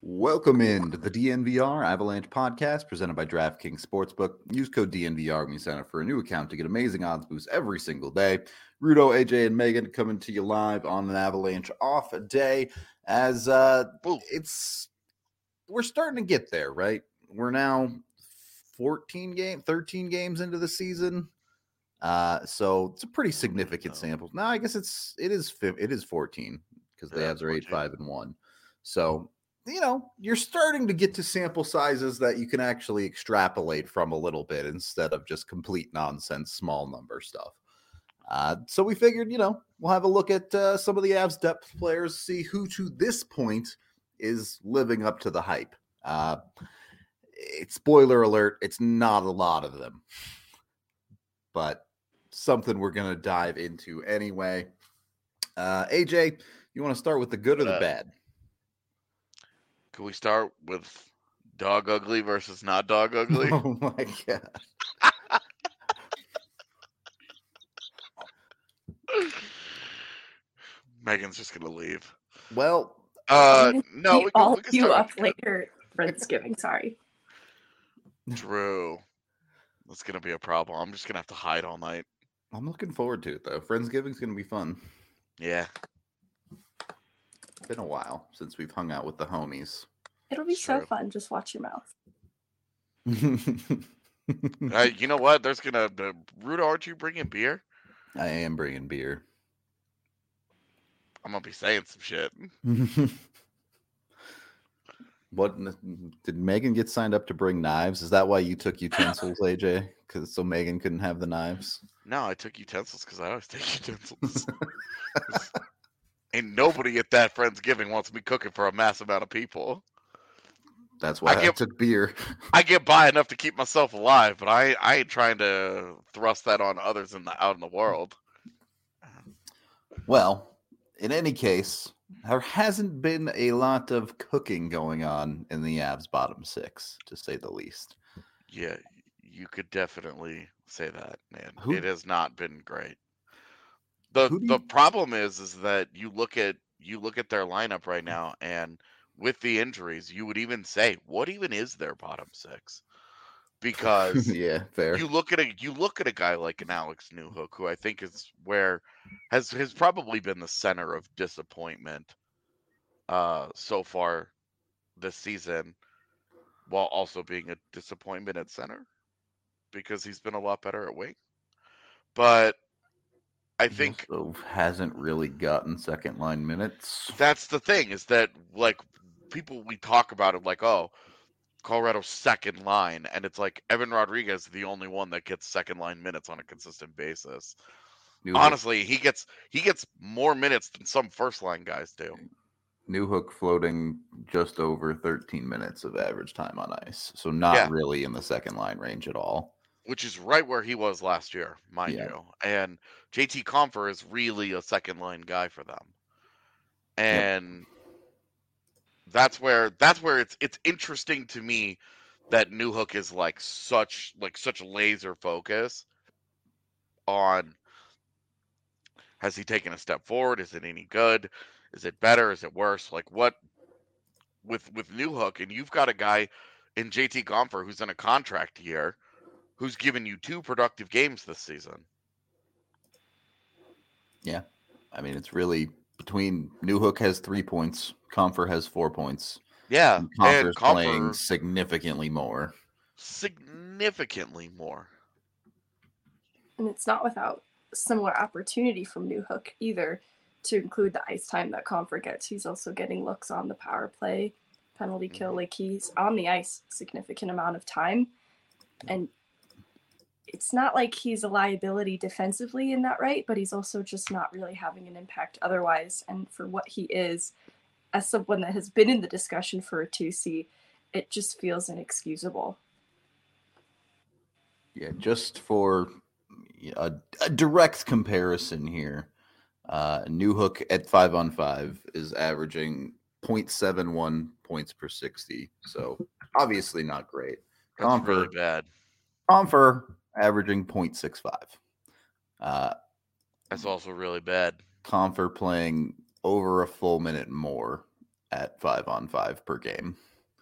Welcome into the DNVR Avalanche podcast presented by DraftKings Sportsbook. Use code DNVR when you sign up for a new account to get amazing odds boosts every single day. Rudo, AJ, and Megan coming to you live on an Avalanche off day as we're starting to get there, right? We're now 13 games into the season. So it's a pretty significant sample. No, I guess it is 14 because the Avs are 8-5-1. So you're starting to get to sample sizes that you can actually extrapolate from a little bit instead of just complete nonsense, small number stuff. So we figured, we'll have a look at some of the Avs depth players, see who to this point is living up to the hype. Spoiler alert, it's not a lot of them, but something we're going to dive into anyway. AJ, you want to start with the good or the bad? Can we start with dog ugly versus not dog ugly? Oh my God. Megan's just going to leave. Well, no, we can you up later, Friendsgiving. Sorry. Drew, that's going to be a problem. I'm just going to have to hide all night. I'm looking forward to it, though. Friendsgiving's going to be fun. Yeah. It's been a while since we've hung out with the homies. It'll be so fun. Just watch your mouth. You know what? There's going to... Rudo, aren't you bringing beer? I am bringing beer. I'm going to be saying some shit. What did Megan get signed up to bring knives? Is that why you took utensils, AJ? So Megan couldn't have the knives? No, I took utensils because I always take utensils. Ain't nobody at that Friendsgiving wants me cooking for a mass amount of people. That's why I took beer. I get by enough to keep myself alive, but I ain't trying to thrust that on others out in the world. Well, in any case, there hasn't been a lot of cooking going on in the Avs bottom six, to say the least. Yeah, you could definitely say that, man. It has not been great. The problem is that you look at their lineup right now, and with the injuries, you would even say, what even is their bottom six? Because yeah, fair. You look at a guy like an Alex Newhook, who I think has probably been the center of disappointment so far this season, while also being a disappointment at center because he's been a lot better at wing. But I think also hasn't really gotten second line minutes. That's the thing, is that like people we talk about it like, oh, Colorado's second line, and it's like Evan Rodriguez is the only one that gets second line minutes on a consistent basis. Honestly, he gets more minutes than some first line guys do. Newhook floating just over 13 minutes of average time on ice, so not really in the second line range at all. Which is right where he was last year, mind you. And JT Compher is really a second line guy for them. And that's where it's interesting to me that Newhook is like such laser focus on, has he taken a step forward? Is it any good? Is it better? Is it worse? Like what with Newhook, and you've got a guy in JT Compher who's in a contract year, who's given you 2 productive games this season. Yeah. I mean, it's really between Newhook has 3 points, Compher has 4 points. Yeah. And Compher's playing significantly more. Significantly more. And it's not without similar opportunity from Newhook either, to include the ice time that Compher gets. He's also getting looks on the power play, penalty kill. Like, he's on the ice a significant amount of time. And it's not like he's a liability defensively in that right, but he's also just not really having an impact otherwise. And for what he is, as someone that has been in the discussion for a 2C, it just feels inexcusable. Yeah, just for a direct comparison here, Newhook at 5-on-5 is averaging 0.71 points per 60. So obviously not great. That's really bad. Compher averaging 0.65. That's also really bad. Compher playing over a full minute more at 5-on-5 per game.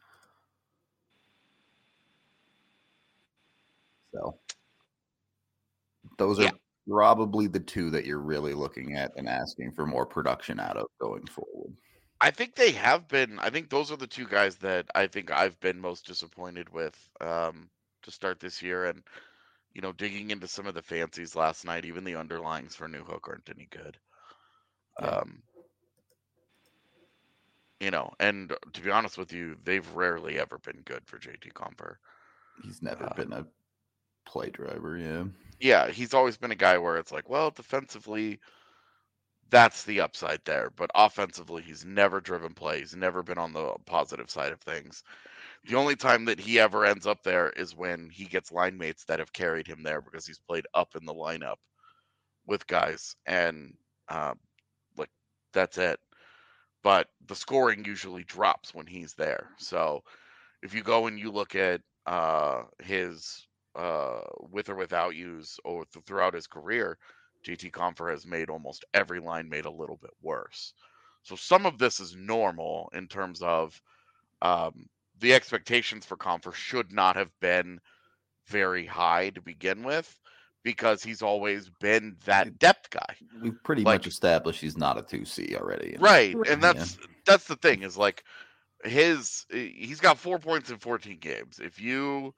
So those are probably the two that you're really looking at and asking for more production out of going forward. I think they have been. I think those are the two guys that I think I've been most disappointed with to start this year. And, digging into some of the fancies last night, even the underlings for Newhook aren't any good. Yeah. And to be honest with you, they've rarely ever been good for JT Compher. He's never been a play driver, yeah. Yeah, he's always been a guy where it's like, well, defensively, that's the upside there. But offensively, he's never driven play. He's never been on the positive side of things. The only time that he ever ends up there is when he gets line mates that have carried him there because he's played up in the lineup with guys. And, that's it. But the scoring usually drops when he's there. So if you go and you look at his with or without use or throughout his career, JT Compher has made almost every line mate a little bit worse. So some of this is normal in terms of the expectations for Compher should not have been very high to begin with because he's always been that depth guy. We've pretty much established he's not a 2C already. Right. And that's the thing is like he's got 4 points in 14 games. If you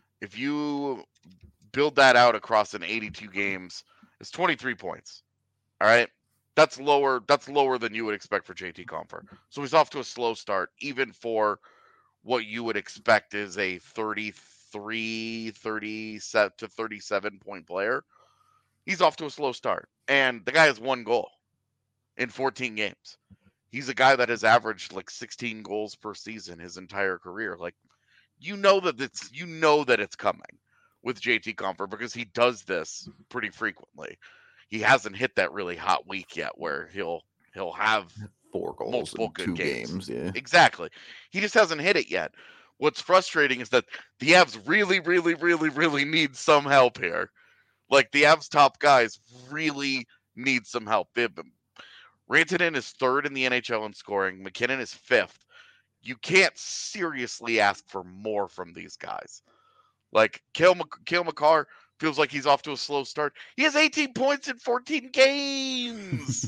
build that out across an 82 games, it's 23 points. All right. That's lower than you would expect for JT Compher. So he's off to a slow start, even for what you would expect is a 33, 37 to 37 point player. He's off to a slow start. And the guy has 1 goal in 14 games. He's a guy that has averaged like 16 goals per season his entire career. Like, that it's coming with JT Compher because he does this pretty frequently. He hasn't hit that really hot week yet where he'll have 4 goals multiple in good 2 games. Yeah. Exactly. He just hasn't hit it yet. What's frustrating is that the Avs really, really, really, really need some help here. Like, the Avs top guys really need some help. Rantanen is 3rd in the NHL in scoring. McKinnon is 5th. You can't seriously ask for more from these guys. Like, Cale Makar feels like he's off to a slow start. He has 18 points in 14 games.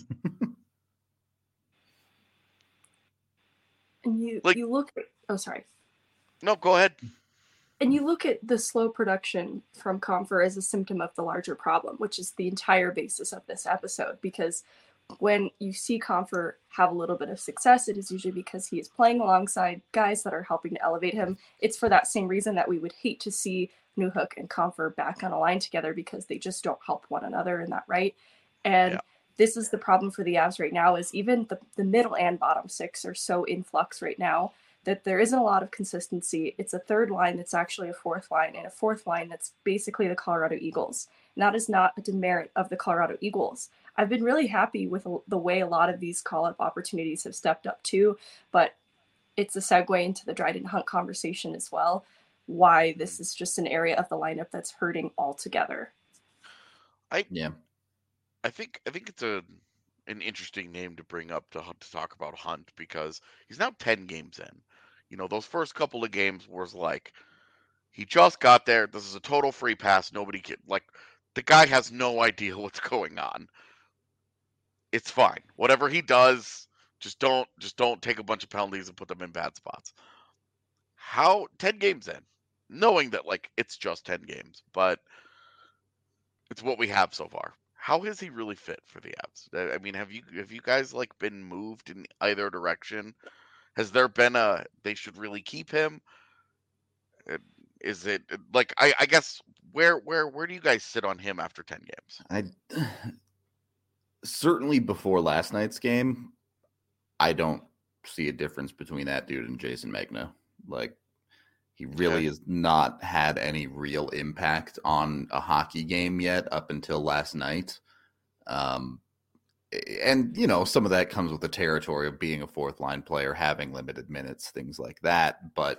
And you look at... Oh, sorry. No, go ahead. And you look at the slow production from Compher as a symptom of the larger problem, which is the entire basis of this episode. Because when you see Compher have a little bit of success, it is usually because he is playing alongside guys that are helping to elevate him. It's for that same reason that we would hate to see Newhook and Compher back on a line together, because they just don't help one another in that right. And this is the problem for the Avs right now, is even the middle and bottom 6 are so in flux right now that there isn't a lot of consistency. It's a third line that's actually a fourth line, and a fourth line that's basically the Colorado Eagles. And that is not a demerit of the Colorado Eagles. I've been really happy with the way a lot of these call-up opportunities have stepped up too, but it's a segue into the Dryden Hunt conversation as well, why this is just an area of the lineup that's hurting altogether. I think it's an interesting name to bring up to talk about Hunt, because he's now 10 games in. Those first couple of games was like, he just got there. This is a total free pass. Nobody can, the guy has no idea what's going on. It's fine. Whatever he does, just don't take a bunch of penalties and put them in bad spots. 10 games in, knowing that it's just 10 games, but it's what we have so far. How is he really fit for the Avs? I mean, have you guys been moved in either direction? Has there been they should really keep him? Is it I guess where do you guys sit on him after 10 games? Certainly before last night's game, I don't see a difference between that dude and Jason Megna. He really has not had any real impact on a hockey game yet up until last night. And, some of that comes with the territory of being a fourth line player, having limited minutes, things like that. But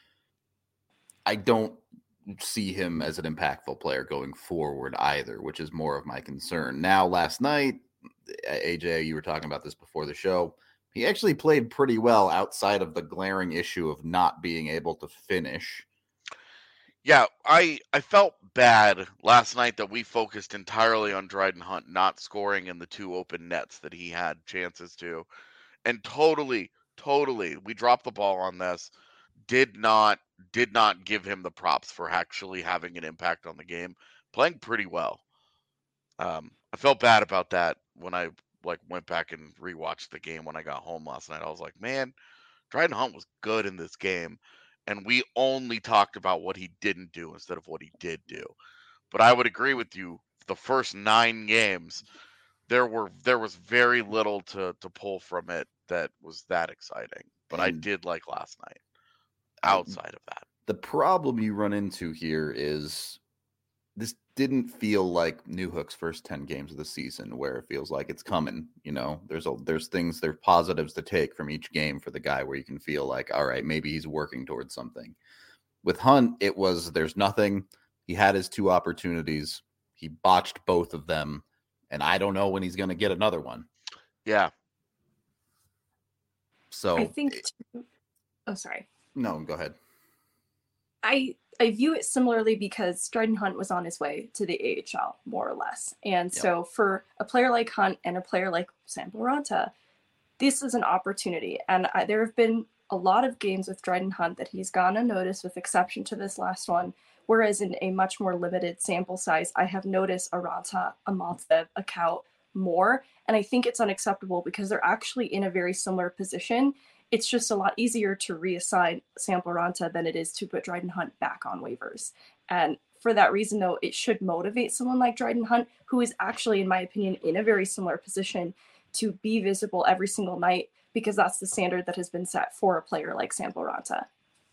I don't see him as an impactful player going forward either, which is more of my concern. Now, last night, AJ, you were talking about this before the show. He actually played pretty well outside of the glaring issue of not being able to finish. Yeah, I felt bad last night that we focused entirely on Dryden Hunt not scoring in the 2 open nets that he had chances to. And totally, we dropped the ball on this. Did not give him the props for actually having an impact on the game. Playing pretty well. I felt bad about that when I went back and rewatched the game when I got home last night. I was like, man, Dryden Hunt was good in this game, and we only talked about what he didn't do instead of what he did do. But I would agree with you. The first 9 games, there was very little to pull from it that was that exciting. But I did like last night. Outside of that, the problem you run into here is this didn't feel like Newhook's first 10 games of the season, where it feels like it's coming. There's positives to take from each game for the guy, where you can feel like, all right, maybe he's working towards something. With Hunt, it was there's nothing. He had his 2 opportunities. He botched both of them, and I don't know when he's going to get another one. Yeah. So I think. Oh, sorry. No, go ahead. I view it similarly because Dryden Hunt was on his way to the AHL, more or less. And so for a player like Hunt and a player like Sampo Ranta, this is an opportunity. And there have been a lot of games with Dryden Hunt that he's gone unnoticed, with exception to this last one. Whereas in a much more limited sample size, I have noticed a Ranta, a Maltsev, a Kaut more. And I think it's unacceptable because they're actually in a very similar position. It's just a lot easier to reassign Sampo Ranta than it is to put Dryden Hunt back on waivers. And for that reason, though, it should motivate someone like Dryden Hunt, who is actually, in my opinion, in a very similar position, to be visible every single night, because that's the standard that has been set for a player like Sampo Ranta.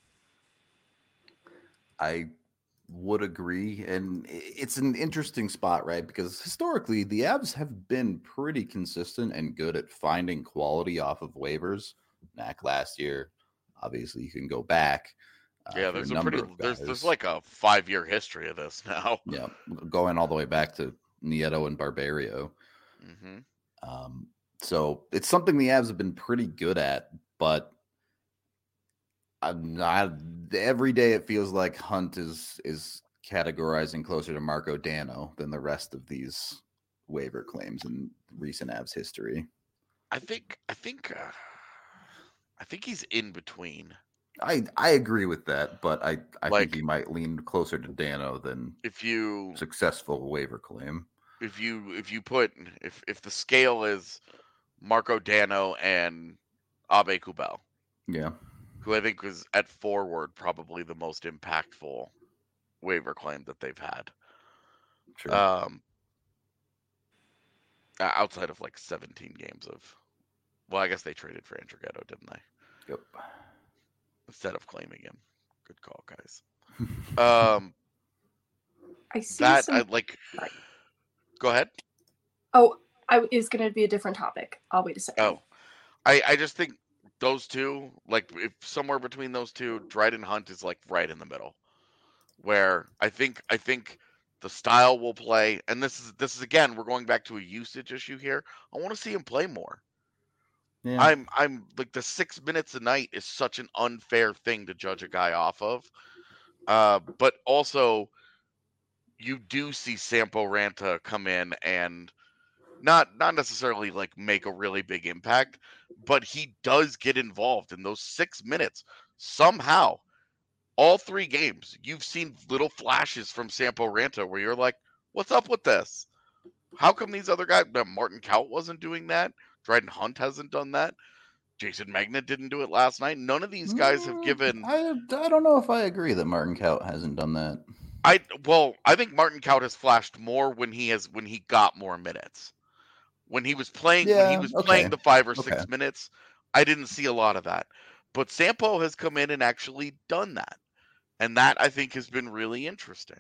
I would agree. And it's an interesting spot, right? Because historically, the Avs have been pretty consistent and good at finding quality off of waivers. Knack last year, obviously you can go back. There's there's like a 5-year history of this now. Yeah, going all the way back to Nieto and Barberio. Mm-hmm. So it's something the Avs have been pretty good at, but every day it feels like Hunt is categorizing closer to Marco Dano than the rest of these waiver claims in recent Avs history. I think he's in between. I agree with that, but I think he might lean closer to Dano than successful waiver claim. If the scale is Marco Dano and Abe Kubel, who I think was at forward probably the most impactful waiver claim that they've had. Sure. Outside of 17 games of, well, I guess they traded for Andrew Ghetto, didn't they? Yep. Instead of claiming him. Good call, guys. I see Go ahead. Oh, it was going to be a different topic. I'll wait a second. Oh, I just think those two, if somewhere between those two, Dryden Hunt is right in the middle, where I think the style will play, and this is again, we're going back to a usage issue here. I want to see him play more. Yeah. I'm the 6 minutes a night is such an unfair thing to judge a guy off of. But also you do see Sampo Ranta come in and not necessarily make a really big impact, but he does get involved in those 6 minutes somehow. All 3 games, you've seen little flashes from Sampo Ranta where you're like, what's up with this? How come these other guys, Martin Kaut wasn't doing that? Dryden Hunt hasn't done that. Jason Magna didn't do it last night. None of these guys have given. I don't know if I agree that Martin Kaut hasn't done that. I think Martin Kaut has flashed more when he got more minutes. When he was playing, playing the 5 or 6 minutes, I didn't see a lot of that. But Sampo has come in and actually done that, and that I think has been really interesting.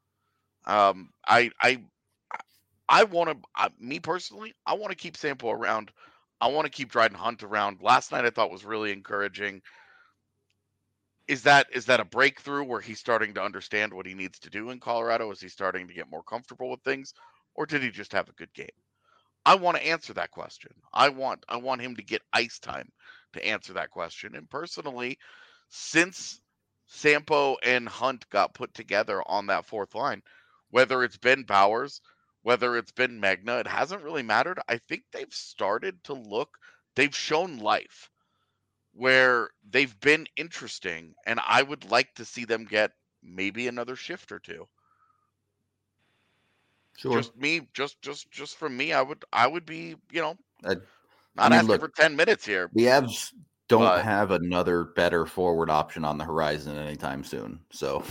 I want to, me personally, I want to keep Sampo around. I want to keep Dryden Hunt around. Last night I thought was really encouraging. Is that a breakthrough where he's starting to understand what he needs to do in Colorado? Is he starting to get more comfortable with things? Or did he just have a good game? I want to answer that question. I want him to get ice time to answer that question. And personally, since Sampo and Hunt got put together on that fourth line, whether it's been Bowers, whether it's been Magna, it hasn't really mattered. I think they've started to look, they've shown life where they've been interesting, and I would like to see them get maybe another shift or two. Sure. Just from me, I would be, not asking look, for 10 minutes here. The Avs don't have another better forward option on the horizon anytime soon. So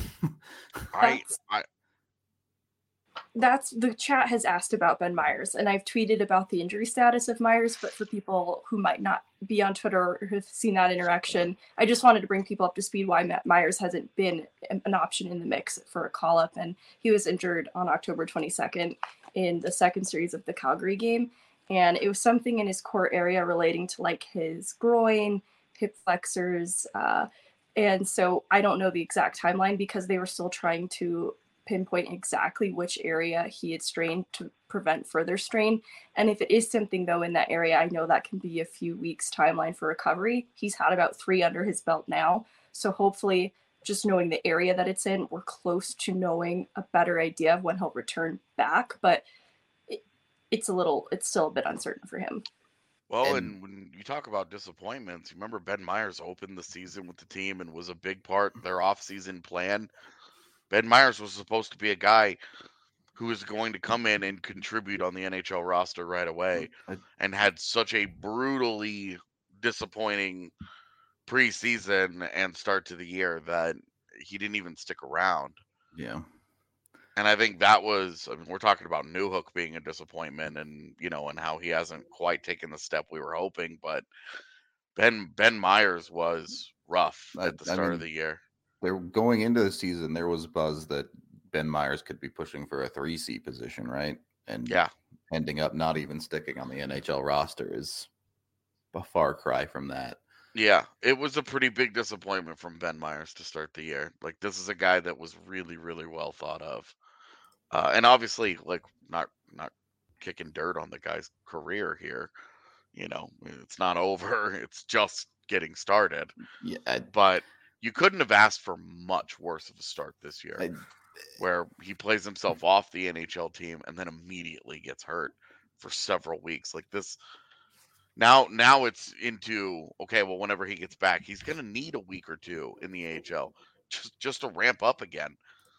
that's the chat has asked about Ben Meyers, and I've tweeted about the injury status of Meyers, but for people who might not be on Twitter or have seen that interaction, I just wanted to bring people up to speed why Matt Meyers hasn't been an option in the mix for a call-up, and he was injured on October 22nd in the second series of the Calgary game, and it was something in his core area relating to like his groin, hip flexors, and so I don't know the exact timeline because they were still trying to pinpoint exactly which area he had strained to prevent further strain. And if it is something though in that area, I know that can be a few weeks timeline for recovery. He's had about 3 under his belt now. So hopefully just knowing the area that it's in, we're close to knowing a better idea of when he'll return back. But it's still a bit uncertain for him. Well, and when you talk about disappointments, you remember Ben Meyers opened the season with the team and was a big part of their off-season plan. Ben Meyers was supposed to be a guy who was going to come in and contribute on the NHL roster right away, and had such a brutally disappointing preseason and start to the year that he didn't even stick around. Yeah. And I think that was, we're talking about Newhook being a disappointment and, and how he hasn't quite taken the step we were hoping, but Ben Meyers was rough at the start of the year. They're going into the season. There was buzz that Ben Meyers could be pushing for a 3C position, right? And ending up not even sticking on the NHL roster is a far cry from that. Yeah, it was a pretty big disappointment from Ben Meyers to start the year. Like, this is a guy that was really, really well thought of, and obviously, like, not kicking dirt on the guy's career here. It's not over. It's just getting started. Yeah, but you couldn't have asked for much worse of a start this year, where he plays himself off the NHL team and then immediately gets hurt for several weeks. Like this, now it's into, okay, well, whenever he gets back, he's going to need a week or two in the AHL just to ramp up again.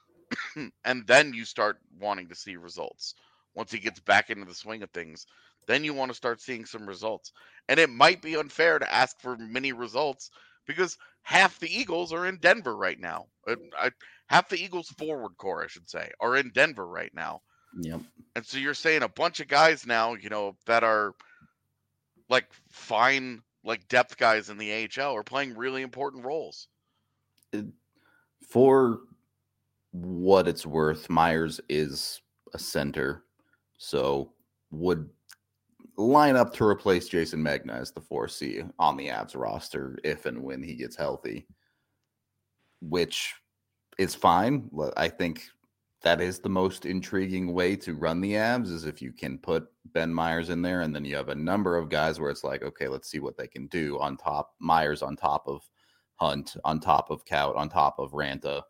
And then you start wanting to see results. Once he gets back into the swing of things, then you want to start seeing some results. And it might be unfair to ask for many results because half the Eagles are in Denver right now. Half the Eagles forward core, I should say, are in Denver right now. Yep. And so you're saying a bunch of guys now, that are like fine, like depth guys in the AHL are playing really important roles. For what it's worth, Meyers is a center, so would line up to replace Jason Magna as the 4C on the Avs roster if and when he gets healthy, which is fine. I think that is the most intriguing way to run the Avs, is if you can put Ben Meyers in there and then you have a number of guys where it's like, okay, let's see what they can do on top. Meyers on top of Hunt, on top of Kaut, on top of Ranta.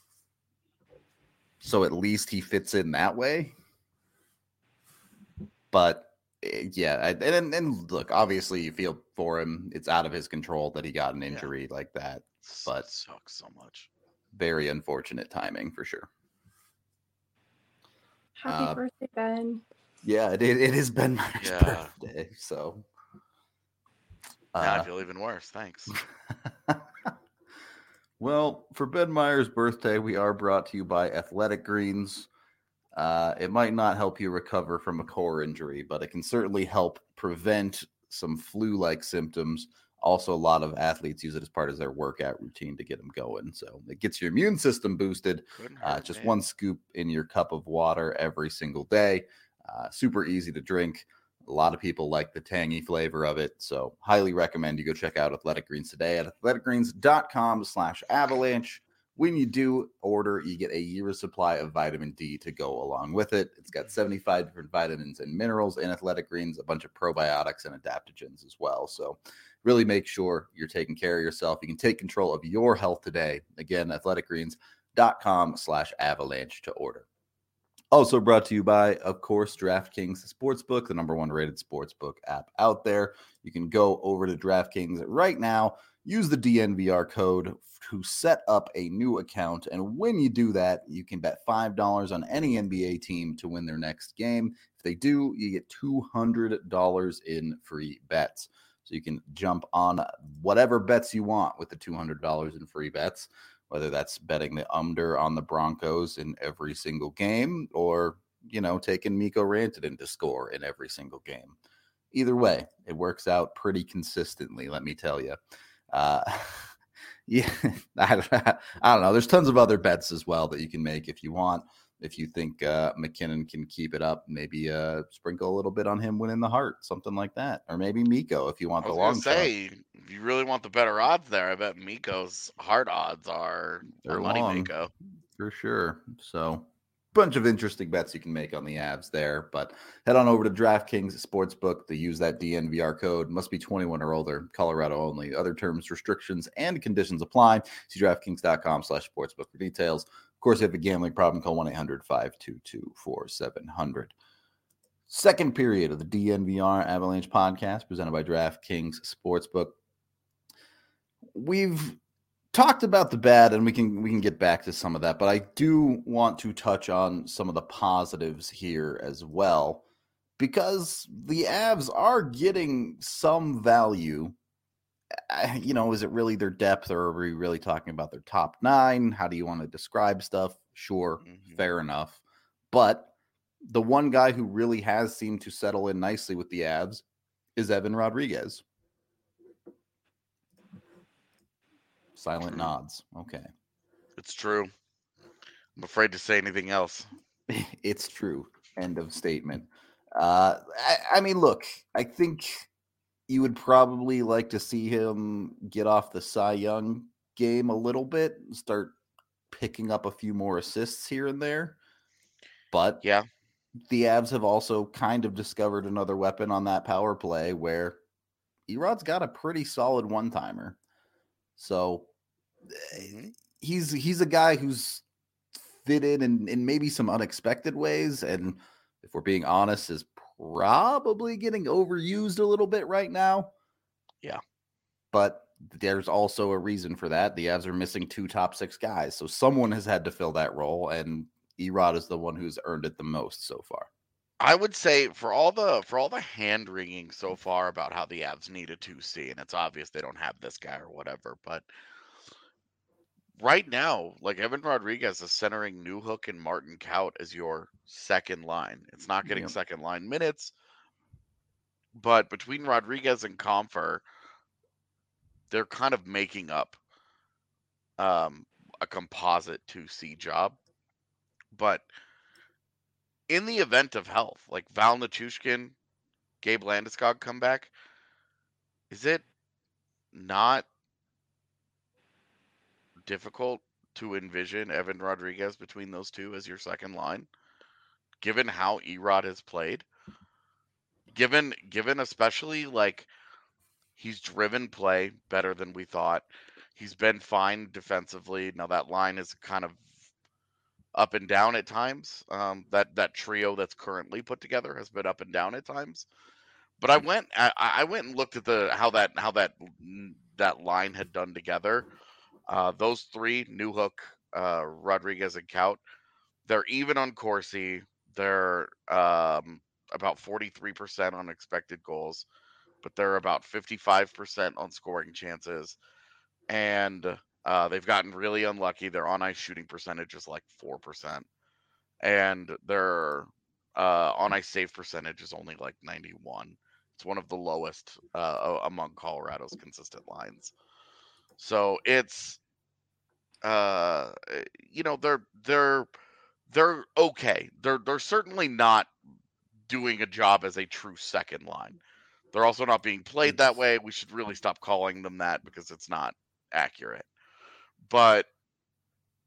So at least he fits in that way. But yeah, and look, obviously you feel for him. It's out of his control that he got an injury like that. But it sucks so much. Very unfortunate timing for sure. Happy birthday, Ben. Yeah, it is Ben Meyers' birthday. So now I feel even worse. Thanks. Well, for Ben Meyers' birthday, we are brought to you by Athletic Greens. It might not help you recover from a core injury, but it can certainly help prevent some flu-like symptoms. Also, a lot of athletes use it as part of their workout routine to get them going. So it gets your immune system boosted. Just one scoop in your cup of water every single day. Super easy to drink. A lot of people like the tangy flavor of it. So highly recommend you go check out Athletic Greens today at athleticgreens.com/avalanche. When you do order, you get a year's supply of vitamin D to go along with it. It's got 75 different vitamins and minerals in Athletic Greens, a bunch of probiotics and adaptogens as well. So really make sure you're taking care of yourself. You can take control of your health today. Again, athleticgreens.com/avalanche to order. Also brought to you by, of course, DraftKings Sportsbook, the #1 rated sportsbook app out there. You can go over to DraftKings right now, use the DNVR code to set up a new account. And when you do that, you can bet $5 on any NBA team to win their next game. If they do, you get $200 in free bets. So you can jump on whatever bets you want with the $200 in free bets, whether that's betting the under on the Broncos in every single game or, taking Mikko Rantanen to score in every single game. Either way, it works out pretty consistently, let me tell you. Yeah, I don't know. There's tons of other bets as well that you can make if you want. If you think McKinnon can keep it up, maybe sprinkle a little bit on him winning the Hart, something like that. Or maybe Mikko if you want the long shot. If you really want the better odds there, I bet Mikko's Hart odds are money Mikko. For sure. So bunch of interesting bets you can make on the Avs there, but head on over to DraftKings Sportsbook to use that DNVR code. Must be 21 or older, Colorado only. Other terms, restrictions, and conditions apply. See DraftKings.com/sportsbook for details. Of course, if you have a gambling problem, call 1-800-522-4700. Second period of the DNVR Avalanche podcast presented by DraftKings Sportsbook. We've talked about the bad, and we can get back to some of that, but I do want to touch on some of the positives here as well, because the Avs are getting some value. Is it really their depth, or are we really talking about their top 9? How do you want to describe stuff? Sure, fair enough. But the one guy who really has seemed to settle in nicely with the Avs is Evan Rodriguez. Silent nods. Okay. It's true. I'm afraid to say anything else. It's true. End of statement. I mean, look, I think you would probably like to see him get off the Cy Young game a little bit, start picking up a few more assists here and there. But yeah, the Avs have also kind of discovered another weapon on that power play where Erod's got a pretty solid one-timer. So he's a guy who's fit in maybe some unexpected ways, and if we're being honest, is probably getting overused a little bit right now. Yeah. But there's also a reason for that. The Avs are missing 2 top 6 guys, so someone has had to fill that role, and Erod is the one who's earned it the most so far. I would say for all the hand wringing so far about how the Avs need a 2C, and it's obvious they don't have this guy or whatever, but right now, like Evan Rodriguez is centering Newhook and Martin Kaut as your second line. It's not getting second line minutes, but between Rodriguez and Compher, they're kind of making up a composite 2C job. But in the event of health, like Val Nichushkin, Gabe Landeskog come back, is it not difficult to envision Evan Rodriguez between those two as your second line, given how Erod has played? Given especially like he's driven play better than we thought. He's been fine defensively. Now that line is kind of up and down at times. That trio that's currently put together has been up and down at times. But I went and looked at how that line had done together. Those 3, Newhook, Rodriguez, and Kaut, they're even on Corsi. They're about 43% on expected goals, but they're about 55% on scoring chances. And they've gotten really unlucky. Their on-ice shooting percentage is like 4%. And their on-ice save percentage is only like 91. It's one of the lowest among Colorado's consistent lines. So it's, they're okay. They're certainly not doing a job as a true second line. They're also not being played that way. We should really stop calling them that because it's not accurate. But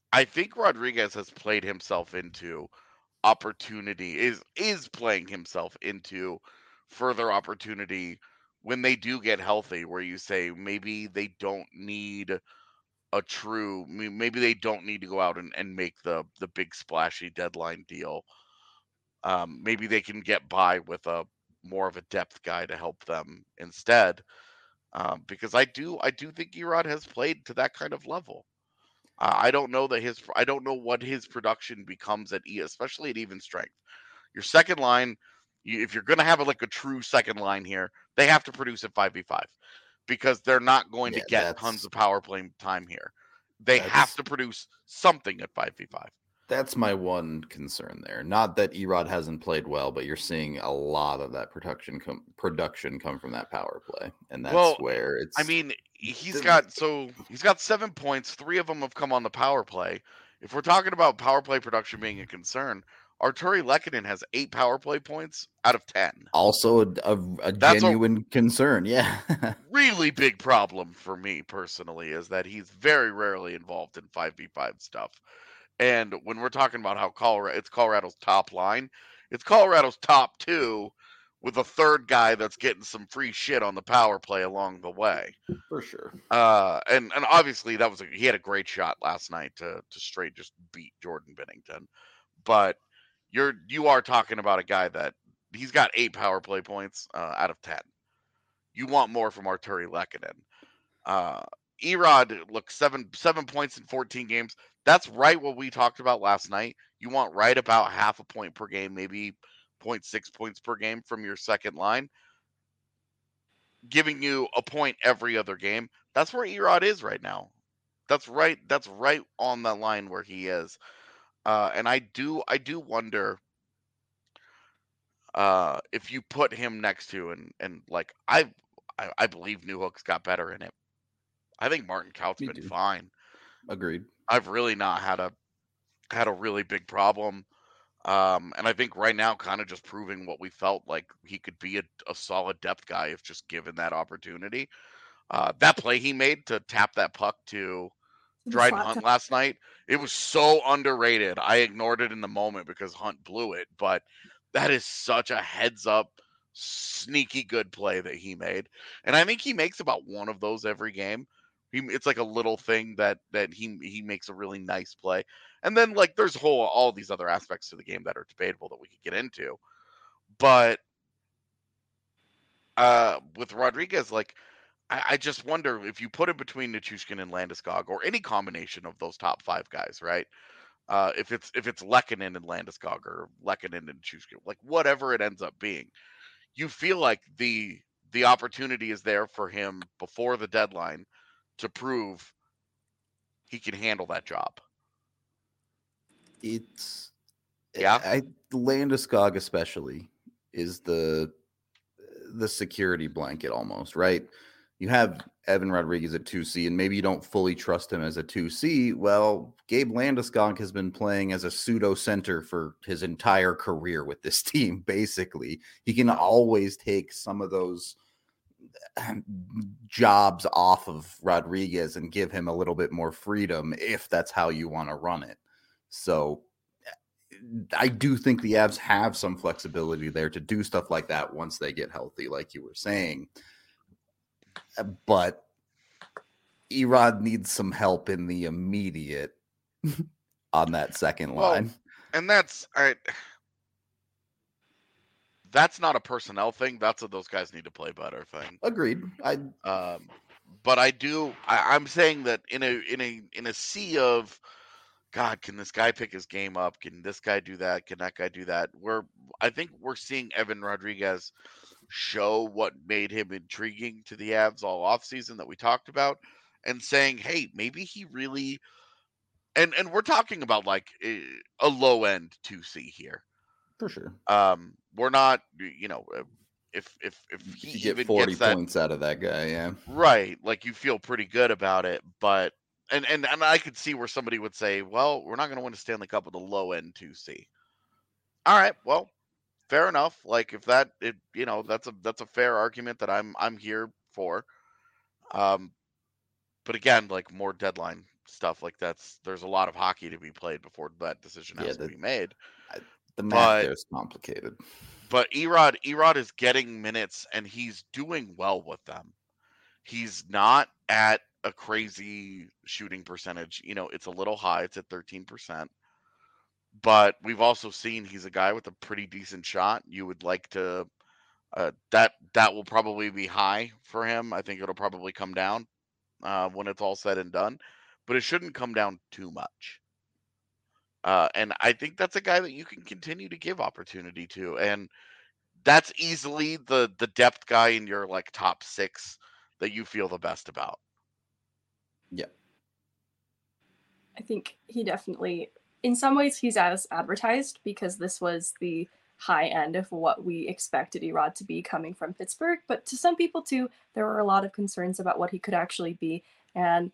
I think Rodriguez has played himself into opportunity, is playing himself into further opportunity when they do get healthy, where you say maybe they don't need maybe they don't need to go out and make the big splashy deadline deal. Maybe they can get by with a more of a depth guy to help them instead. Because I do think Erod has played to that kind of level. I don't know what his production becomes especially at even strength. Your second line, if you're going to have like a true second line here, they have to produce at 5v5 because they're not going to get tons of power play time here. They have to produce something at 5v5. That's my one concern there. Not that Erod hasn't played well, but you're seeing a lot of that production come from that power play, and that's where it's. I mean, he's got 7 points. 3 of them have come on the power play. If we're talking about power play production being a concern, Artturi Lehkonen has 8 power play points out of 10. Also a genuine concern, yeah. Really big problem for me personally is that he's very rarely involved in 5v5 stuff. And when we're talking about how it's Colorado's top line, it's Colorado's top 2 with a third guy that's getting some free shit on the power play along the way. For sure. And obviously he had a great shot last night to straight just beat Jordan Binnington. But you are talking about a guy that he's got 8 power play points out of 10. You want more from Artturi Lehkonen. Erod, look, 7 points in 14 games. That's right what we talked about last night. You want right about half a point per game, maybe 0.6 points per game from your second line, giving you a point every other game. That's where Erod is right now. That's right on the line where he is. And I do wonder if you put him next to and like I believe Newhook's got better in it. I think Martin Kaut's been fine. Agreed. I've really not had a really big problem. And I think right now kind of just proving what we felt like he could be a solid depth guy if just given that opportunity. That play he made to tap that puck to Dryden Hunt last night, it was so underrated. I ignored it in the moment because Hunt blew it, but that is such a heads up, sneaky good play that he made. And I think he makes about one of those every game. It's like a little thing that he makes a really nice play. And then like there's all these other aspects to the game that are debatable that we could get into. But with Rodriguez, like I just wonder if you put him between Nichushkin and Landeskog or any combination of those top 5 guys, right? If it's Lehkonen and Landeskog or Lehkonen and Nichushkin, like whatever it ends up being, you feel like the opportunity is there for him before the deadline to prove he can handle that job. Landeskog especially is the security blanket almost, right? You have Evan Rodriguez at 2C, and maybe you don't fully trust him as a 2C. Well, Gabe Landeskog has been playing as a pseudo center for his entire career with this team. Basically, he can always take some of those jobs off of Rodriguez and give him a little bit more freedom if that's how you want to run it. So I do think the Avs have some flexibility there to do stuff like that once they get healthy, like you were saying. But Erod needs some help in the immediate on that second line. And that's all right. That's not a personnel thing. That's what those guys need to play better thing. Agreed. But I'm saying that in a sea of God, can this guy pick his game up? Can this guy do that? Can that guy do that? I think we're seeing Evan Rodriguez show what made him intriguing to the Avs all offseason that we talked about, and saying, hey, maybe he really and we're talking about like a low end 2C here. For sure. We're not, if he you get 40 points out of that guy, yeah. Right. Like you feel pretty good about it, but and I could see where somebody would say, well, we're not going to win a Stanley Cup with a low end 2C. All right, well, fair enough. Like if that's a fair argument that I'm here for. But again, like more deadline stuff. Like there's a lot of hockey to be played before that decision has to be made. The math there is complicated. But Erod is getting minutes and he's doing well with them. He's not at a crazy shooting percentage. It's a little high. It's at 13%. But we've also seen he's a guy with a pretty decent shot. You would like to that will probably be high for him. I think it'll probably come down when it's all said and done, but it shouldn't come down too much. And I think that's a guy that you can continue to give opportunity to, and that's easily the depth guy in your like top 6 that you feel the best about. Yeah, I think he definitely, in some ways, he's as advertised because this was the high end of what we expected Erod to be coming from Pittsburgh. But to some people too, there were a lot of concerns about what he could actually be. And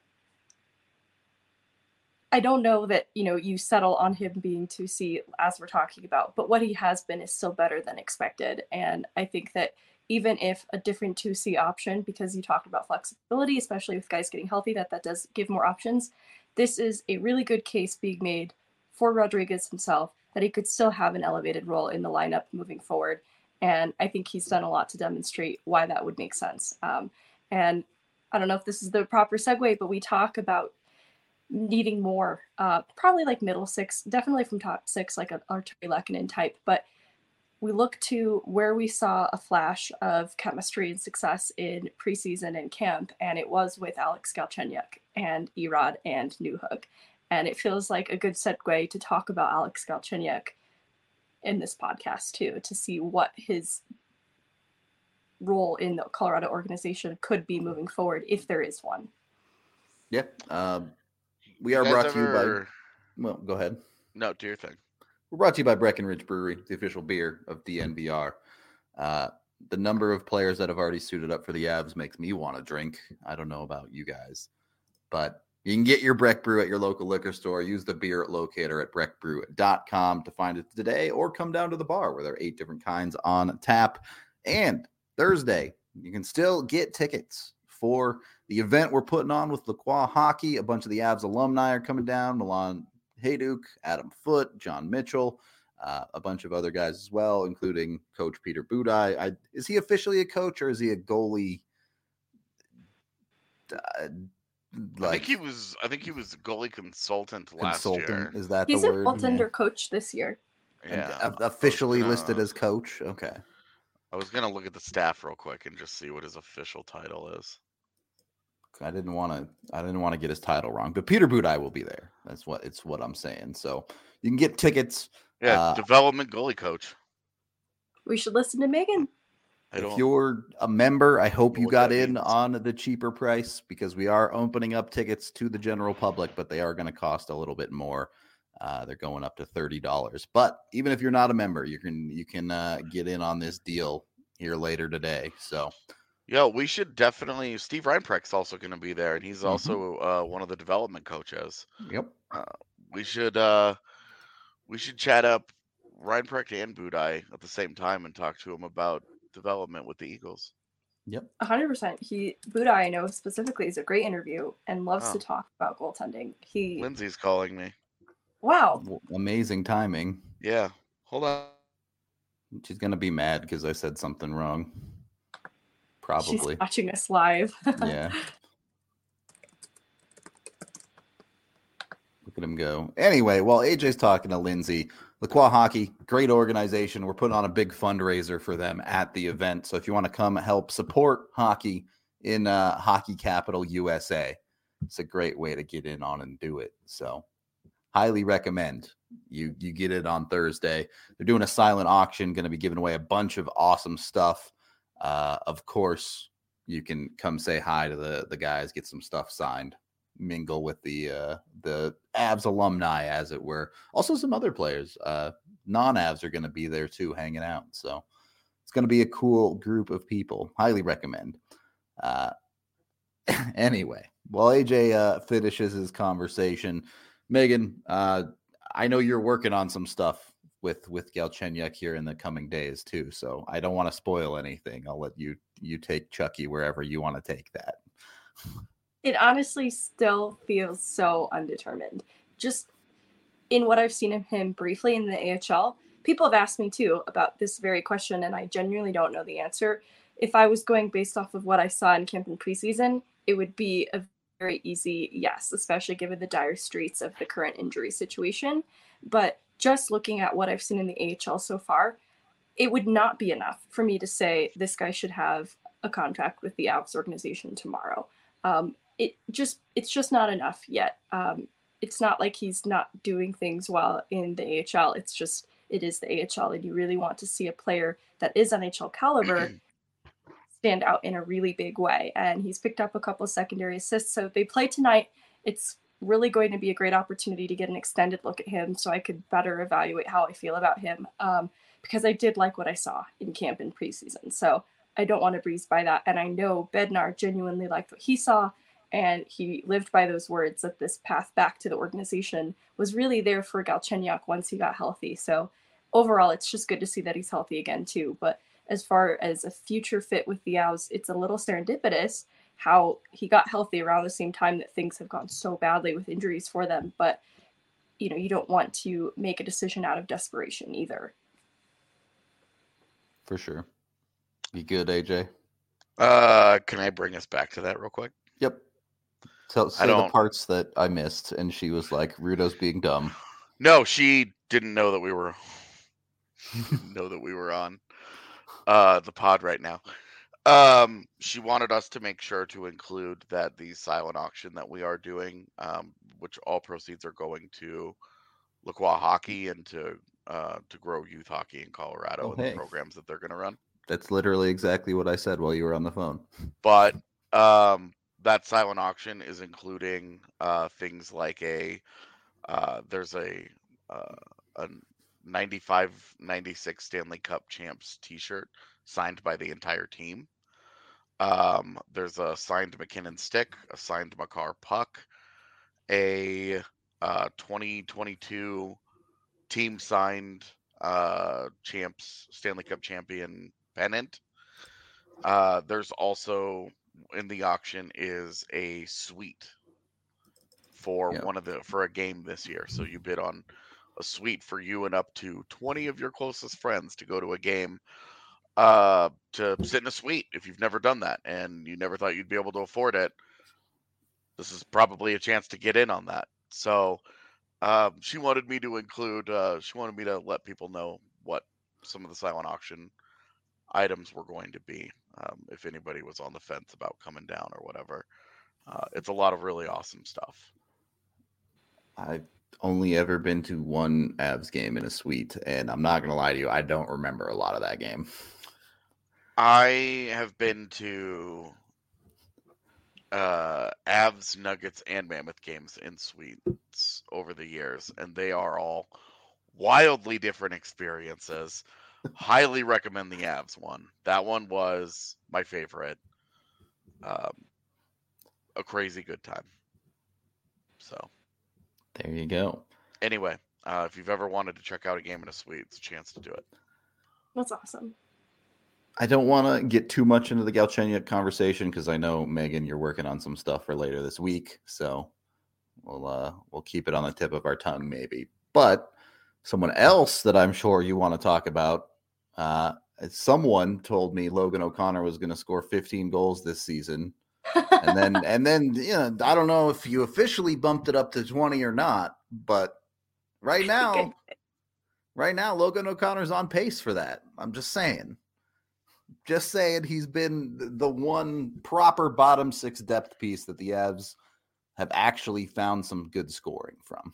I don't know that, you settle on him being 2C as we're talking about, but what he has been is still better than expected. And I think that even if a different 2C option, because you talked about flexibility, especially with guys getting healthy, that does give more options. This is a really good case being made for Rodriguez himself that he could still have an elevated role in the lineup moving forward. And I think he's done a lot to demonstrate why that would make sense. And I don't know if this is the proper segue, but we talk about needing more, probably like middle 6, definitely from top 6, like an Artturi Lehkonen type. But we look to where we saw a flash of chemistry and success in preseason and camp, and it was with Alex Galchenyuk and Erod and Newhook. And it feels like a good segue to talk about Alex Galchenyuk in this podcast too, to see what his role in the Colorado organization could be moving forward, if there is one. Yeah. We are brought to you by... Well, go ahead. No, do your thing. We're brought to you by Breckenridge Brewery, the official beer of DNVR. The number of players that have already suited up for the Avs makes me want to drink. I don't know about you guys, but you can get your Breck Brew at your local liquor store. Use the beer locator at breckbrew.com to find it today, or come down to the bar where there are 8 different kinds on tap. And Thursday, you can still get tickets for the event we're putting on with Lacroix Hockey. A bunch of the Avs alumni are coming down. Milan Hayduk, Adam Foote, John Mitchell, a bunch of other guys as well, including Coach Peter Budaj. Is he officially a coach, or is he a goalie? I think he was goalie consultant last year. Is that He's the word? He's a goaltender coach this year. Yeah. Officially listed as coach? Okay. I was going to look at the staff real quick and just see what his official title is. I didn't want to get his title wrong, but Peter Budaj will be there. That's what I'm saying. So you can get tickets. Yeah, development goalie coach. We should listen to Megan. If you're a member, I hope you got in on the cheaper price, because we are opening up tickets to the general public, but they are going to cost a little bit more. They're going up to $30. But even if you're not a member, you can get in on this deal here later today. So. Yeah, we should definitely. Steve Reinprecht's also going to be there, and he's also one of the development coaches. Yep. We should chat up Reinprecht and Budaj at the same time and talk to him about development with the Eagles. Yep. 100%. Budaj, I know specifically, is a great interview and loves to talk about goaltending. Lindsay's calling me. Wow. Amazing timing. Yeah. Hold on. She's going to be mad because I said something wrong. Probably. She's watching us live. Yeah. Look at him go. Anyway, while AJ's talking to Lindsay, Lacroix Hockey, great organization. We're putting on a big fundraiser for them at the event. So if you want to come help support hockey in Hockey Capital USA, it's a great way to get in on and do it. So highly recommend you get it on Thursday. They're doing a silent auction, going to be giving away a bunch of awesome stuff. Of course, you can come say hi to the guys, get some stuff signed, mingle with the Avs alumni, as it were. Also, some other players, non-Avs, are going to be there too, hanging out. So it's going to be a cool group of people. Highly recommend. Anyway, while AJ finishes his conversation, Megan, I know you're working on some stuff with Galchenyuk here in the coming days too, so I don't want to spoil anything. I'll let you take Chucky wherever you want to take that. It honestly still feels so undetermined. Just in what I've seen of him briefly in the AHL, people have asked me too about this very question, and I genuinely don't know the answer. If I was going based off of what I saw in camp and preseason, it would be a very easy yes, especially given the dire straits of the current injury situation. But just looking at what I've seen in the AHL so far, it would not be enough for me to say this guy should have a contract with the Avs organization tomorrow. It's just not enough yet. It's not like he's not doing things well in the AHL. It's just it is the AHL, and you really want to see a player that is NHL caliber stand out in a really big way. And he's picked up a couple of secondary assists. So they play tonight. It's really going to be a great opportunity to get an extended look at him, so I could better evaluate how I feel about him. Because I did like what I saw in camp and preseason. So I don't want to breeze by that. And I know Bednar genuinely liked what he saw, and he lived by those words that this path back to the organization was really there for Galchenyuk once he got healthy. So overall, it's just good to see that he's healthy again too. But as far as a future fit with the Avs, it's a little serendipitous how he got healthy around the same time that things have gone so badly with injuries for them. But, you know, you don't want to make a decision out of desperation either. For sure. You good, AJ? Can I bring us back to that real quick? Yep. So say the parts that I missed, and she was like, Rudo's being dumb. No, she didn't know that we were on the pod right now. She wanted us to make sure to include that the silent auction that we are doing, which all proceeds are going to Lacroix Hockey and to grow youth hockey in Colorado and the programs that they're going to run. That's literally exactly what I said while you were on the phone. But that silent auction is including things like there's a 95-96 Stanley Cup champs t-shirt signed by the entire team. There's a signed McKinnon stick, a signed Makar puck, a 2022 team signed champs Stanley Cup champion pennant. There's also in the auction is a suite for for a game this year. So you bid on a suite for you and up to 20 of your closest friends to go to a game, to sit in a suite. If you've never done that and you never thought you'd be able to afford it, this is probably a chance to get in on that. So she wanted me to include, she wanted me to let people know what some of the silent auction items were going to be, if anybody was on the fence about coming down or whatever. It's a lot of really awesome stuff. I've only ever been to one Avs game in a suite, and I'm not going to lie to you, I don't remember a lot of that game. I have been to Avs, Nuggets, and Mammoth games in suites over the years, and they are all wildly different experiences. Highly recommend the Avs one. That one was my favorite. A crazy good time. So there you go. Anyway, if you've ever wanted to check out a game in a suite, it's a chance to do it. That's awesome. I don't want to get too much into the Galchenyuk conversation because I know, Megan, you're working on some stuff for later this week. So we'll keep it on the tip of our tongue maybe. But someone else that I'm sure you want to talk about, someone told me Logan O'Connor was going to score 15 goals this season. and then you know, I don't know if you officially bumped it up to 20 or not, but right now Logan O'Connor's on pace for that. I'm just saying he's been the one proper bottom six depth piece that the Avs have actually found some good scoring from.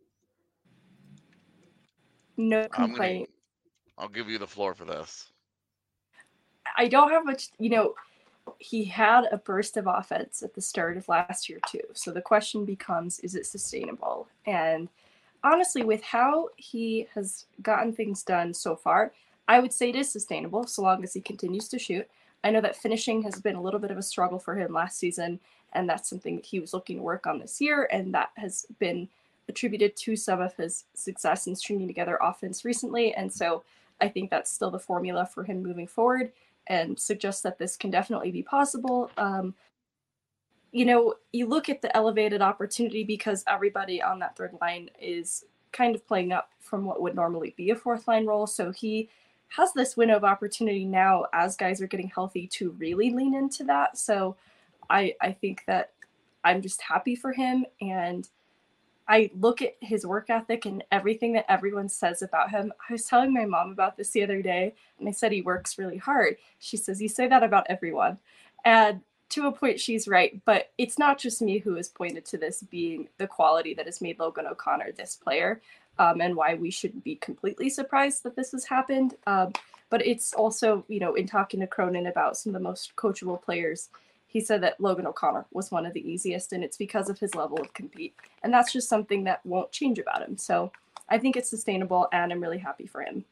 No complaint. I'll give you the floor for this. I don't have much, he had a burst of offense at the start of last year too. So the question becomes, is it sustainable? And honestly, with how he has gotten things done so far, I would say it is sustainable so long as he continues to shoot. I know that finishing has been a little bit of a struggle for him last season, and that's something that he was looking to work on this year, and that has been attributed to some of his success in stringing together offense recently. And so I think that's still the formula for him moving forward, and suggests that this can definitely be possible. you know, you look at the elevated opportunity because everybody on that third line is kind of playing up from what would normally be a fourth line role. So he has this window of opportunity now as guys are getting healthy to really lean into that. So I think that I'm just happy for him. And I look at his work ethic and everything that everyone says about him. I was telling my mom about this the other day, and I said he works really hard. She says, you say that about everyone. And to a point, she's right. But it's not just me who has pointed to this being the quality that has made Logan O'Connor this player, and why we shouldn't be completely surprised that this has happened. But it's also, you know, in talking to Cronin about some of the most coachable players, he said that Logan O'Connor was one of the easiest, and it's because of his level of compete. And that's just something that won't change about him. So I think it's sustainable, and I'm really happy for him.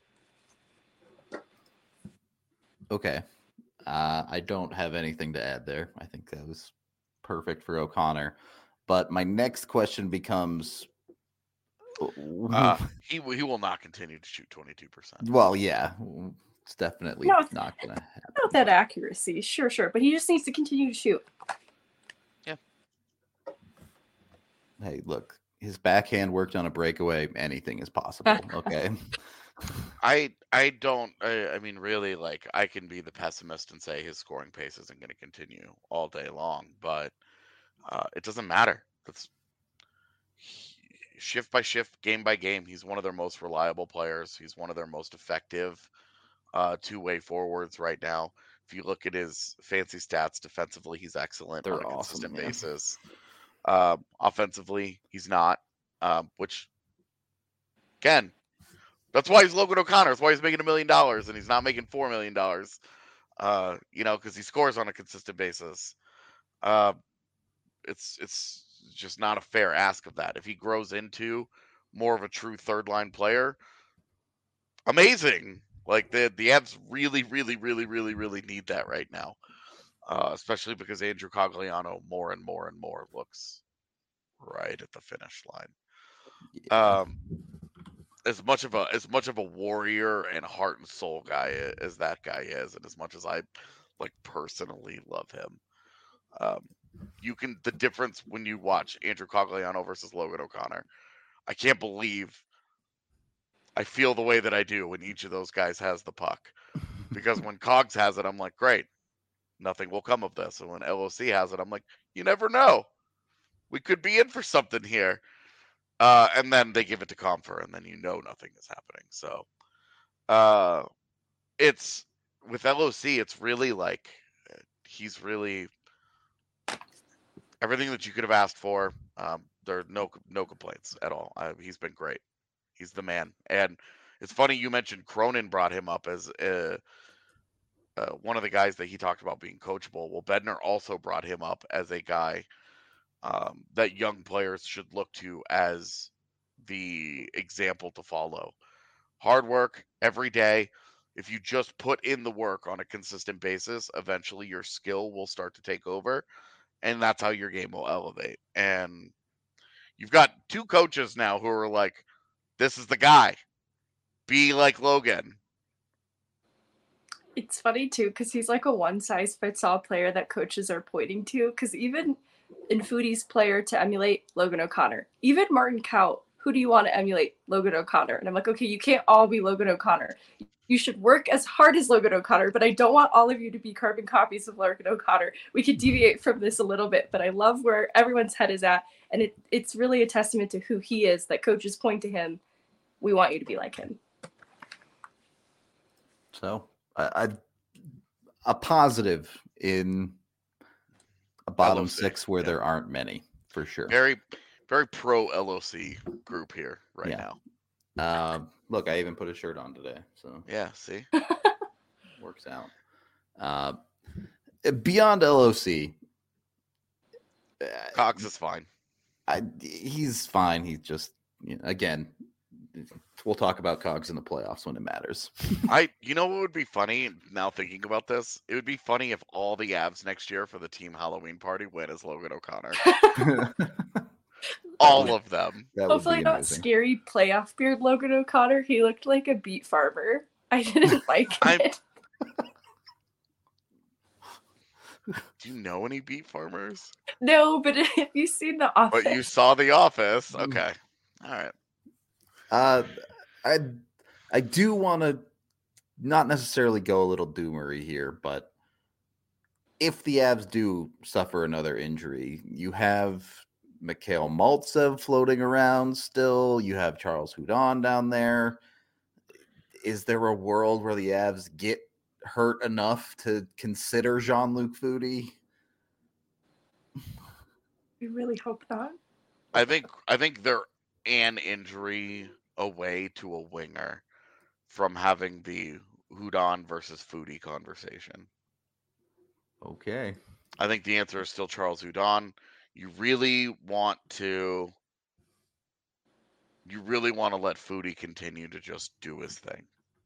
Okay. I don't have anything to add there. I think that was perfect for O'Connor. But my next question becomes... he will not continue to shoot 22%. Well, yeah. It's definitely not going to happen. Not that accuracy, sure. But he just needs to continue to shoot. Yeah. Hey, look, his backhand worked on a breakaway. Anything is possible. Okay. I mean, really, like, I can be the pessimist and say his scoring pace isn't going to continue all day long, but it doesn't matter. That's shift by shift, game by game. He's one of their most reliable players. He's one of their most effective two-way forwards right now. If you look at his fancy stats defensively, he's excellent on a consistent basis. Offensively, he's not, which, again, that's why he's Logan O'Connor. That's why he's making $1 million and he's not making $4 million, you know, because he scores on a consistent basis. It's just not a fair ask of that. If he grows into more of a true third-line player, amazing. Like, the Avs really, really, really, really, really need that right now, especially because Andrew Cogliano more and more and more looks right at the finish line. Yeah. As much of a warrior and heart and soul guy as that guy is, and as much as I like personally love him, the difference when you watch Andrew Cogliano versus Logan O'Connor, I can't believe I feel the way that I do when each of those guys has the puck. Because when Cogs has it, I'm like, great, nothing will come of this. And when LOC has it, I'm like, you never know. We could be in for something here. And then they give it to Compher, and then you know nothing is happening. So it's with LOC, it's really like he's really everything that you could have asked for. There are no complaints at all. He's been great. He's the man. And it's funny you mentioned Cronin brought him up as one of the guys that he talked about being coachable. Well, Bednar also brought him up as a guy that young players should look to as the example to follow. Hard work every day. If you just put in the work on a consistent basis, eventually your skill will start to take over, and that's how your game will elevate. And you've got two coaches now who are like, this is the guy. Be like Logan. It's funny, too, because he's like a one-size-fits-all player that coaches are pointing to, because even in Foodie's player to emulate Logan O'Connor, even Martin Kaut, who do you want to emulate? Logan O'Connor. And I'm like, okay, you can't all be Logan O'Connor. You should work as hard as Logan O'Connor, but I don't want all of you to be carbon copies of Logan O'Connor. We could deviate from this a little bit, but I love where everyone's head is at, and it's really a testament to who he is that coaches point to him. We want you to be like him. So, a positive in a bottom LOC, six where there aren't many, for sure. Very, very pro LOC group here now. Look, I even put a shirt on today, so yeah, see, works out. Beyond LOC, Cox is fine. He's fine. He's just, again, we'll talk about Cogs in the playoffs when it matters. You know what would be funny now thinking about this? It would be funny if all the Avs next year for the team Halloween party went as Logan O'Connor. All of them. Hopefully not scary playoff beard Logan O'Connor. He looked like a beet farmer. I didn't like it. Do you know any beet farmers? No, but if you've seen The Office. But you saw The Office. Okay. All right. I do want to not necessarily go a little doomery here, but if the Avs do suffer another injury, you have Mikhail Maltsev floating around still. You have Charles Hudon down there. Is there a world where the Avs get hurt enough to consider Jean-Luc Foudy? We really hope not. I think they're an injury away to a winger from having the Hudon versus Foudy conversation. Okay. I think the answer is still Charles Hudon. You really want to let Foudy continue to just do his thing.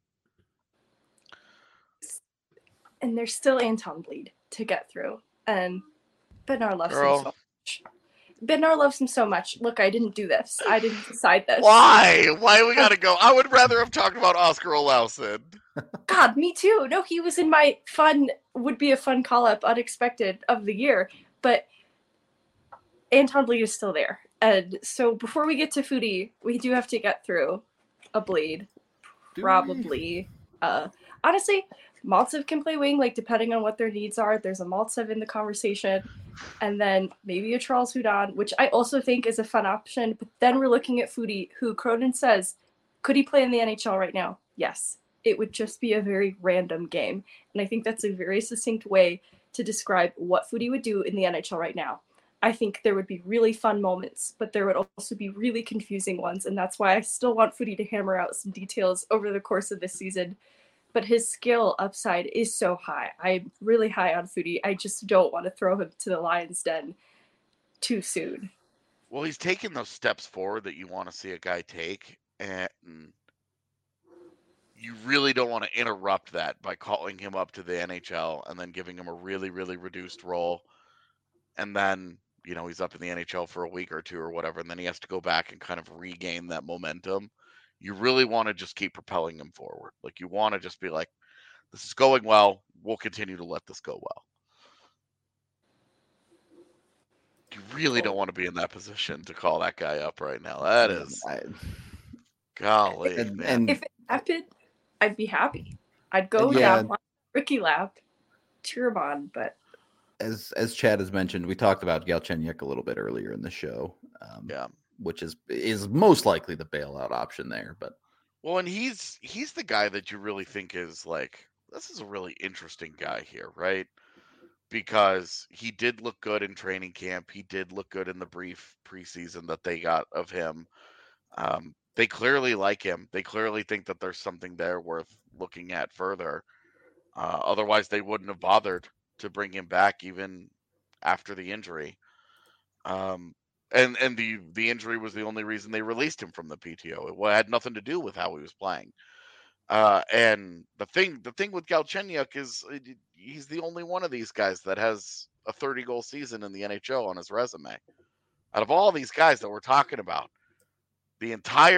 And there's still Anton Bleed to get through. And Bednar loves him so much. Bednar loves him so much. Look, I didn't do this. I didn't decide this. Why? Why we gotta go? I would rather have talked about Oscar Olausson. God, me too. No, he was in my would be a fun call-up, unexpected of the year. But Anton Bleed is still there. And so before we get to Foudy, we do have to get through a Bleed. Probably. Honestly, Maltsev can play wing, like depending on what their needs are. There's a Maltsev in the conversation. And then maybe a Charles Hudon, which I also think is a fun option. But then we're looking at Foudy, who Cronin says, could he play in the NHL right now? Yes. It would just be a very random game. And I think that's a very succinct way to describe what Foudy would do in the NHL right now. I think there would be really fun moments, but there would also be really confusing ones. And that's why I still want Foudy to hammer out some details over the course of this season. But his skill upside is so high. I'm really high on Foudy. I just don't want to throw him to the lion's den too soon. Well, he's taking those steps forward that you want to see a guy take, and you really don't want to interrupt that by calling him up to the NHL and then giving him a really, really reduced role. And then, he's up in the NHL for a week or two or whatever, and then he has to go back and kind of regain that momentum. You really want to just keep propelling him forward. Like, you want to just be like, this is going well. We'll continue to let this go well. You really don't want to be in that position to call that guy up right now. That is, golly, man. If it happened, I'd be happy. I'd go down on Ricky lap, cheer him on, but as Chad has mentioned, we talked about Galchenyuk a little bit earlier in the show. Which is most likely the bailout option there. But well, and he's the guy that you really think is like, this is a really interesting guy here, right? Because he did look good in training camp. He did look good in the brief preseason that they got of him. They clearly like him. They clearly think that there's something there worth looking at further. Otherwise, they wouldn't have bothered to bring him back even after the injury. And the injury was the only reason they released him from the PTO. It had nothing to do with how he was playing. And the thing with Galchenyuk is he's the only one of these guys that has a 30-goal season in the NHL on his resume. Out of all these guys that we're talking about, even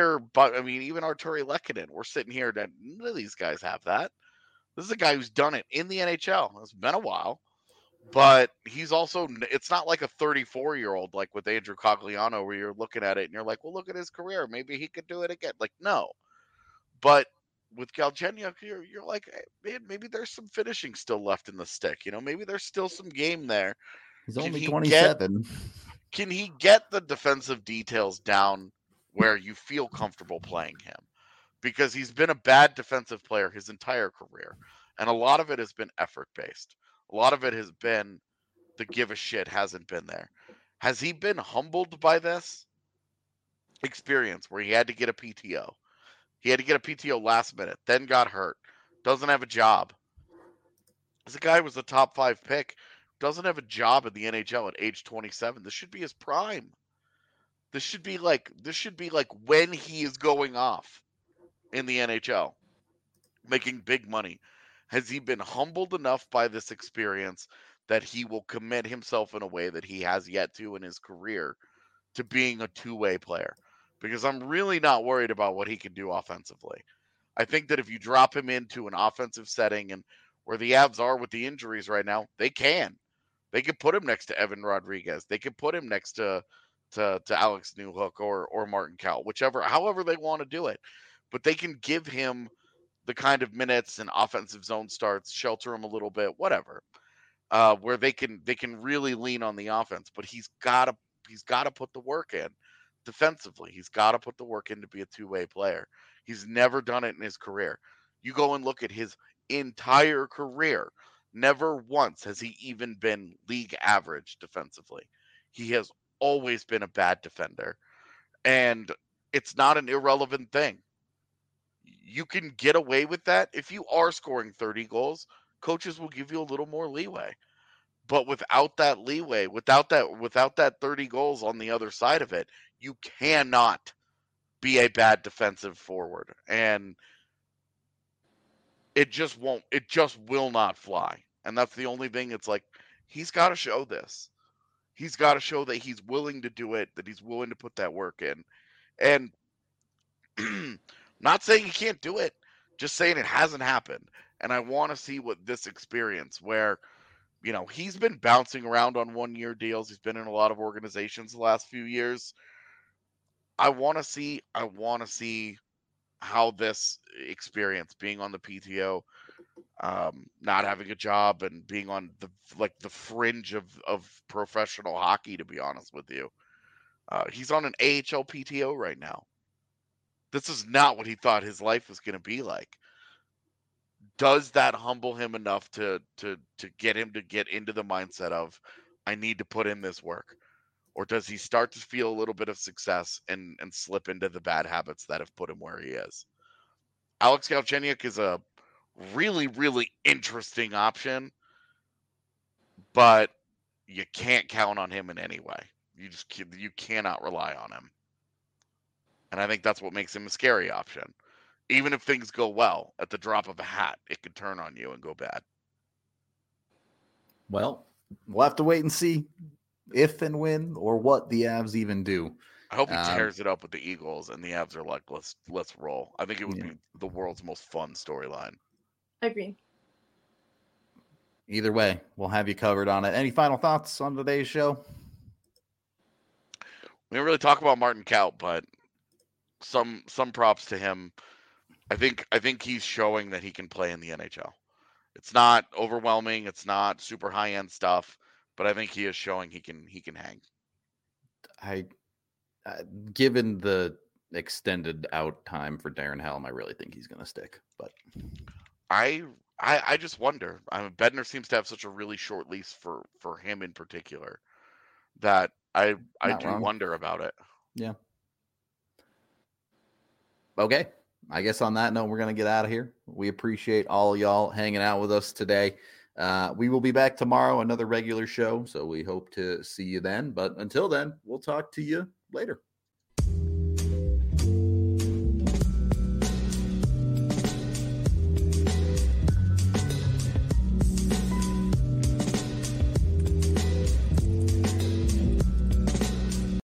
Arturi Lehkonen, we're sitting here that none of these guys have that. This is a guy who's done it in the NHL. It's been a while. But he's also, it's not like a 34-year-old like with Andrew Cogliano where you're looking at it and you're like, well, look at his career. Maybe he could do it again. Like, no. But with Galchenyuk, you're like, hey, man, maybe there's some finishing still left in the stick. Maybe there's still some game there. He's only 27. Can he get the defensive details down where you feel comfortable playing him? Because he's been a bad defensive player his entire career. And a lot of it has been effort-based. A lot of it has been the give a shit hasn't been there. Has he been humbled by this experience where he had to get a PTO? He had to get a PTO last minute, then got hurt, doesn't have a job. This guy was a top 5 pick, doesn't have a job in the NHL at age 27. This should be his prime. This should be like when he is going off in the NHL, making big money. Has he been humbled enough by this experience that he will commit himself in a way that he has yet to in his career to being a two-way player? Because I'm really not worried about what he can do offensively. I think that if you drop him into an offensive setting and where the Avs are with the injuries right now, they can. They could put him next to Evan Rodriguez. They could put him next to Alex Newhook or Martin Kaut, however they want to do it. But they can give him the kind of minutes and offensive zone starts, shelter him a little bit, whatever, where they can really lean on the offense. But he's got to put the work in defensively. He's got to put the work in to be a two-way player. He's never done it in his career. You go and look at his entire career. Never once has he even been league average defensively. He has always been a bad defender. And it's not an irrelevant thing. You can get away with that. If you are scoring 30 goals, coaches will give you a little more leeway. But without that leeway, without that 30 goals on the other side of it, you cannot be a bad defensive forward. And it just will not fly. And that's the only thing. It's like, he's got to show this. He's got to show that he's willing to do it, that he's willing to put that work in. And not saying he can't do it, just saying it hasn't happened. And I want to see what this experience where, he's been bouncing around on 1-year deals. He's been in a lot of organizations the last few years. I want to see how this experience, being on the PTO, not having a job and being on the fringe of professional hockey, to be honest with you. He's on an AHL PTO right now. This is not what he thought his life was going to be like. Does that humble him enough to get him to get into the mindset of, I need to put in this work? Or does he start to feel a little bit of success and slip into the bad habits that have put him where he is? Alex Galchenyuk is a really, really interesting option, but you can't count on him in any way. You cannot rely on him. And I think that's what makes him a scary option. Even if things go well, at the drop of a hat, it could turn on you and go bad. Well, we'll have to wait and see if and when or what the Avs even do. I hope he tears it up with the Eagles and the Avs are like, let's roll. I think it would be the world's most fun storyline. Agree. Either way, we'll have you covered on it. Any final thoughts on today's show? We didn't really talk about Martin Kaut, but some props to him. I think he's showing that he can play in the NHL. It's not overwhelming. It's not super high end stuff, but I think he is showing he can hang. Given the extended out time for Darren Helm, I really think he's going to stick. But I just wonder. Bednar seems to have such a really short lease for him in particular that I do wonder about it. Yeah. Okay. I guess on that note, we're going to get out of here. We appreciate all y'all hanging out with us today. We will be back tomorrow, another regular show. So we hope to see you then. But until then, we'll talk to you later.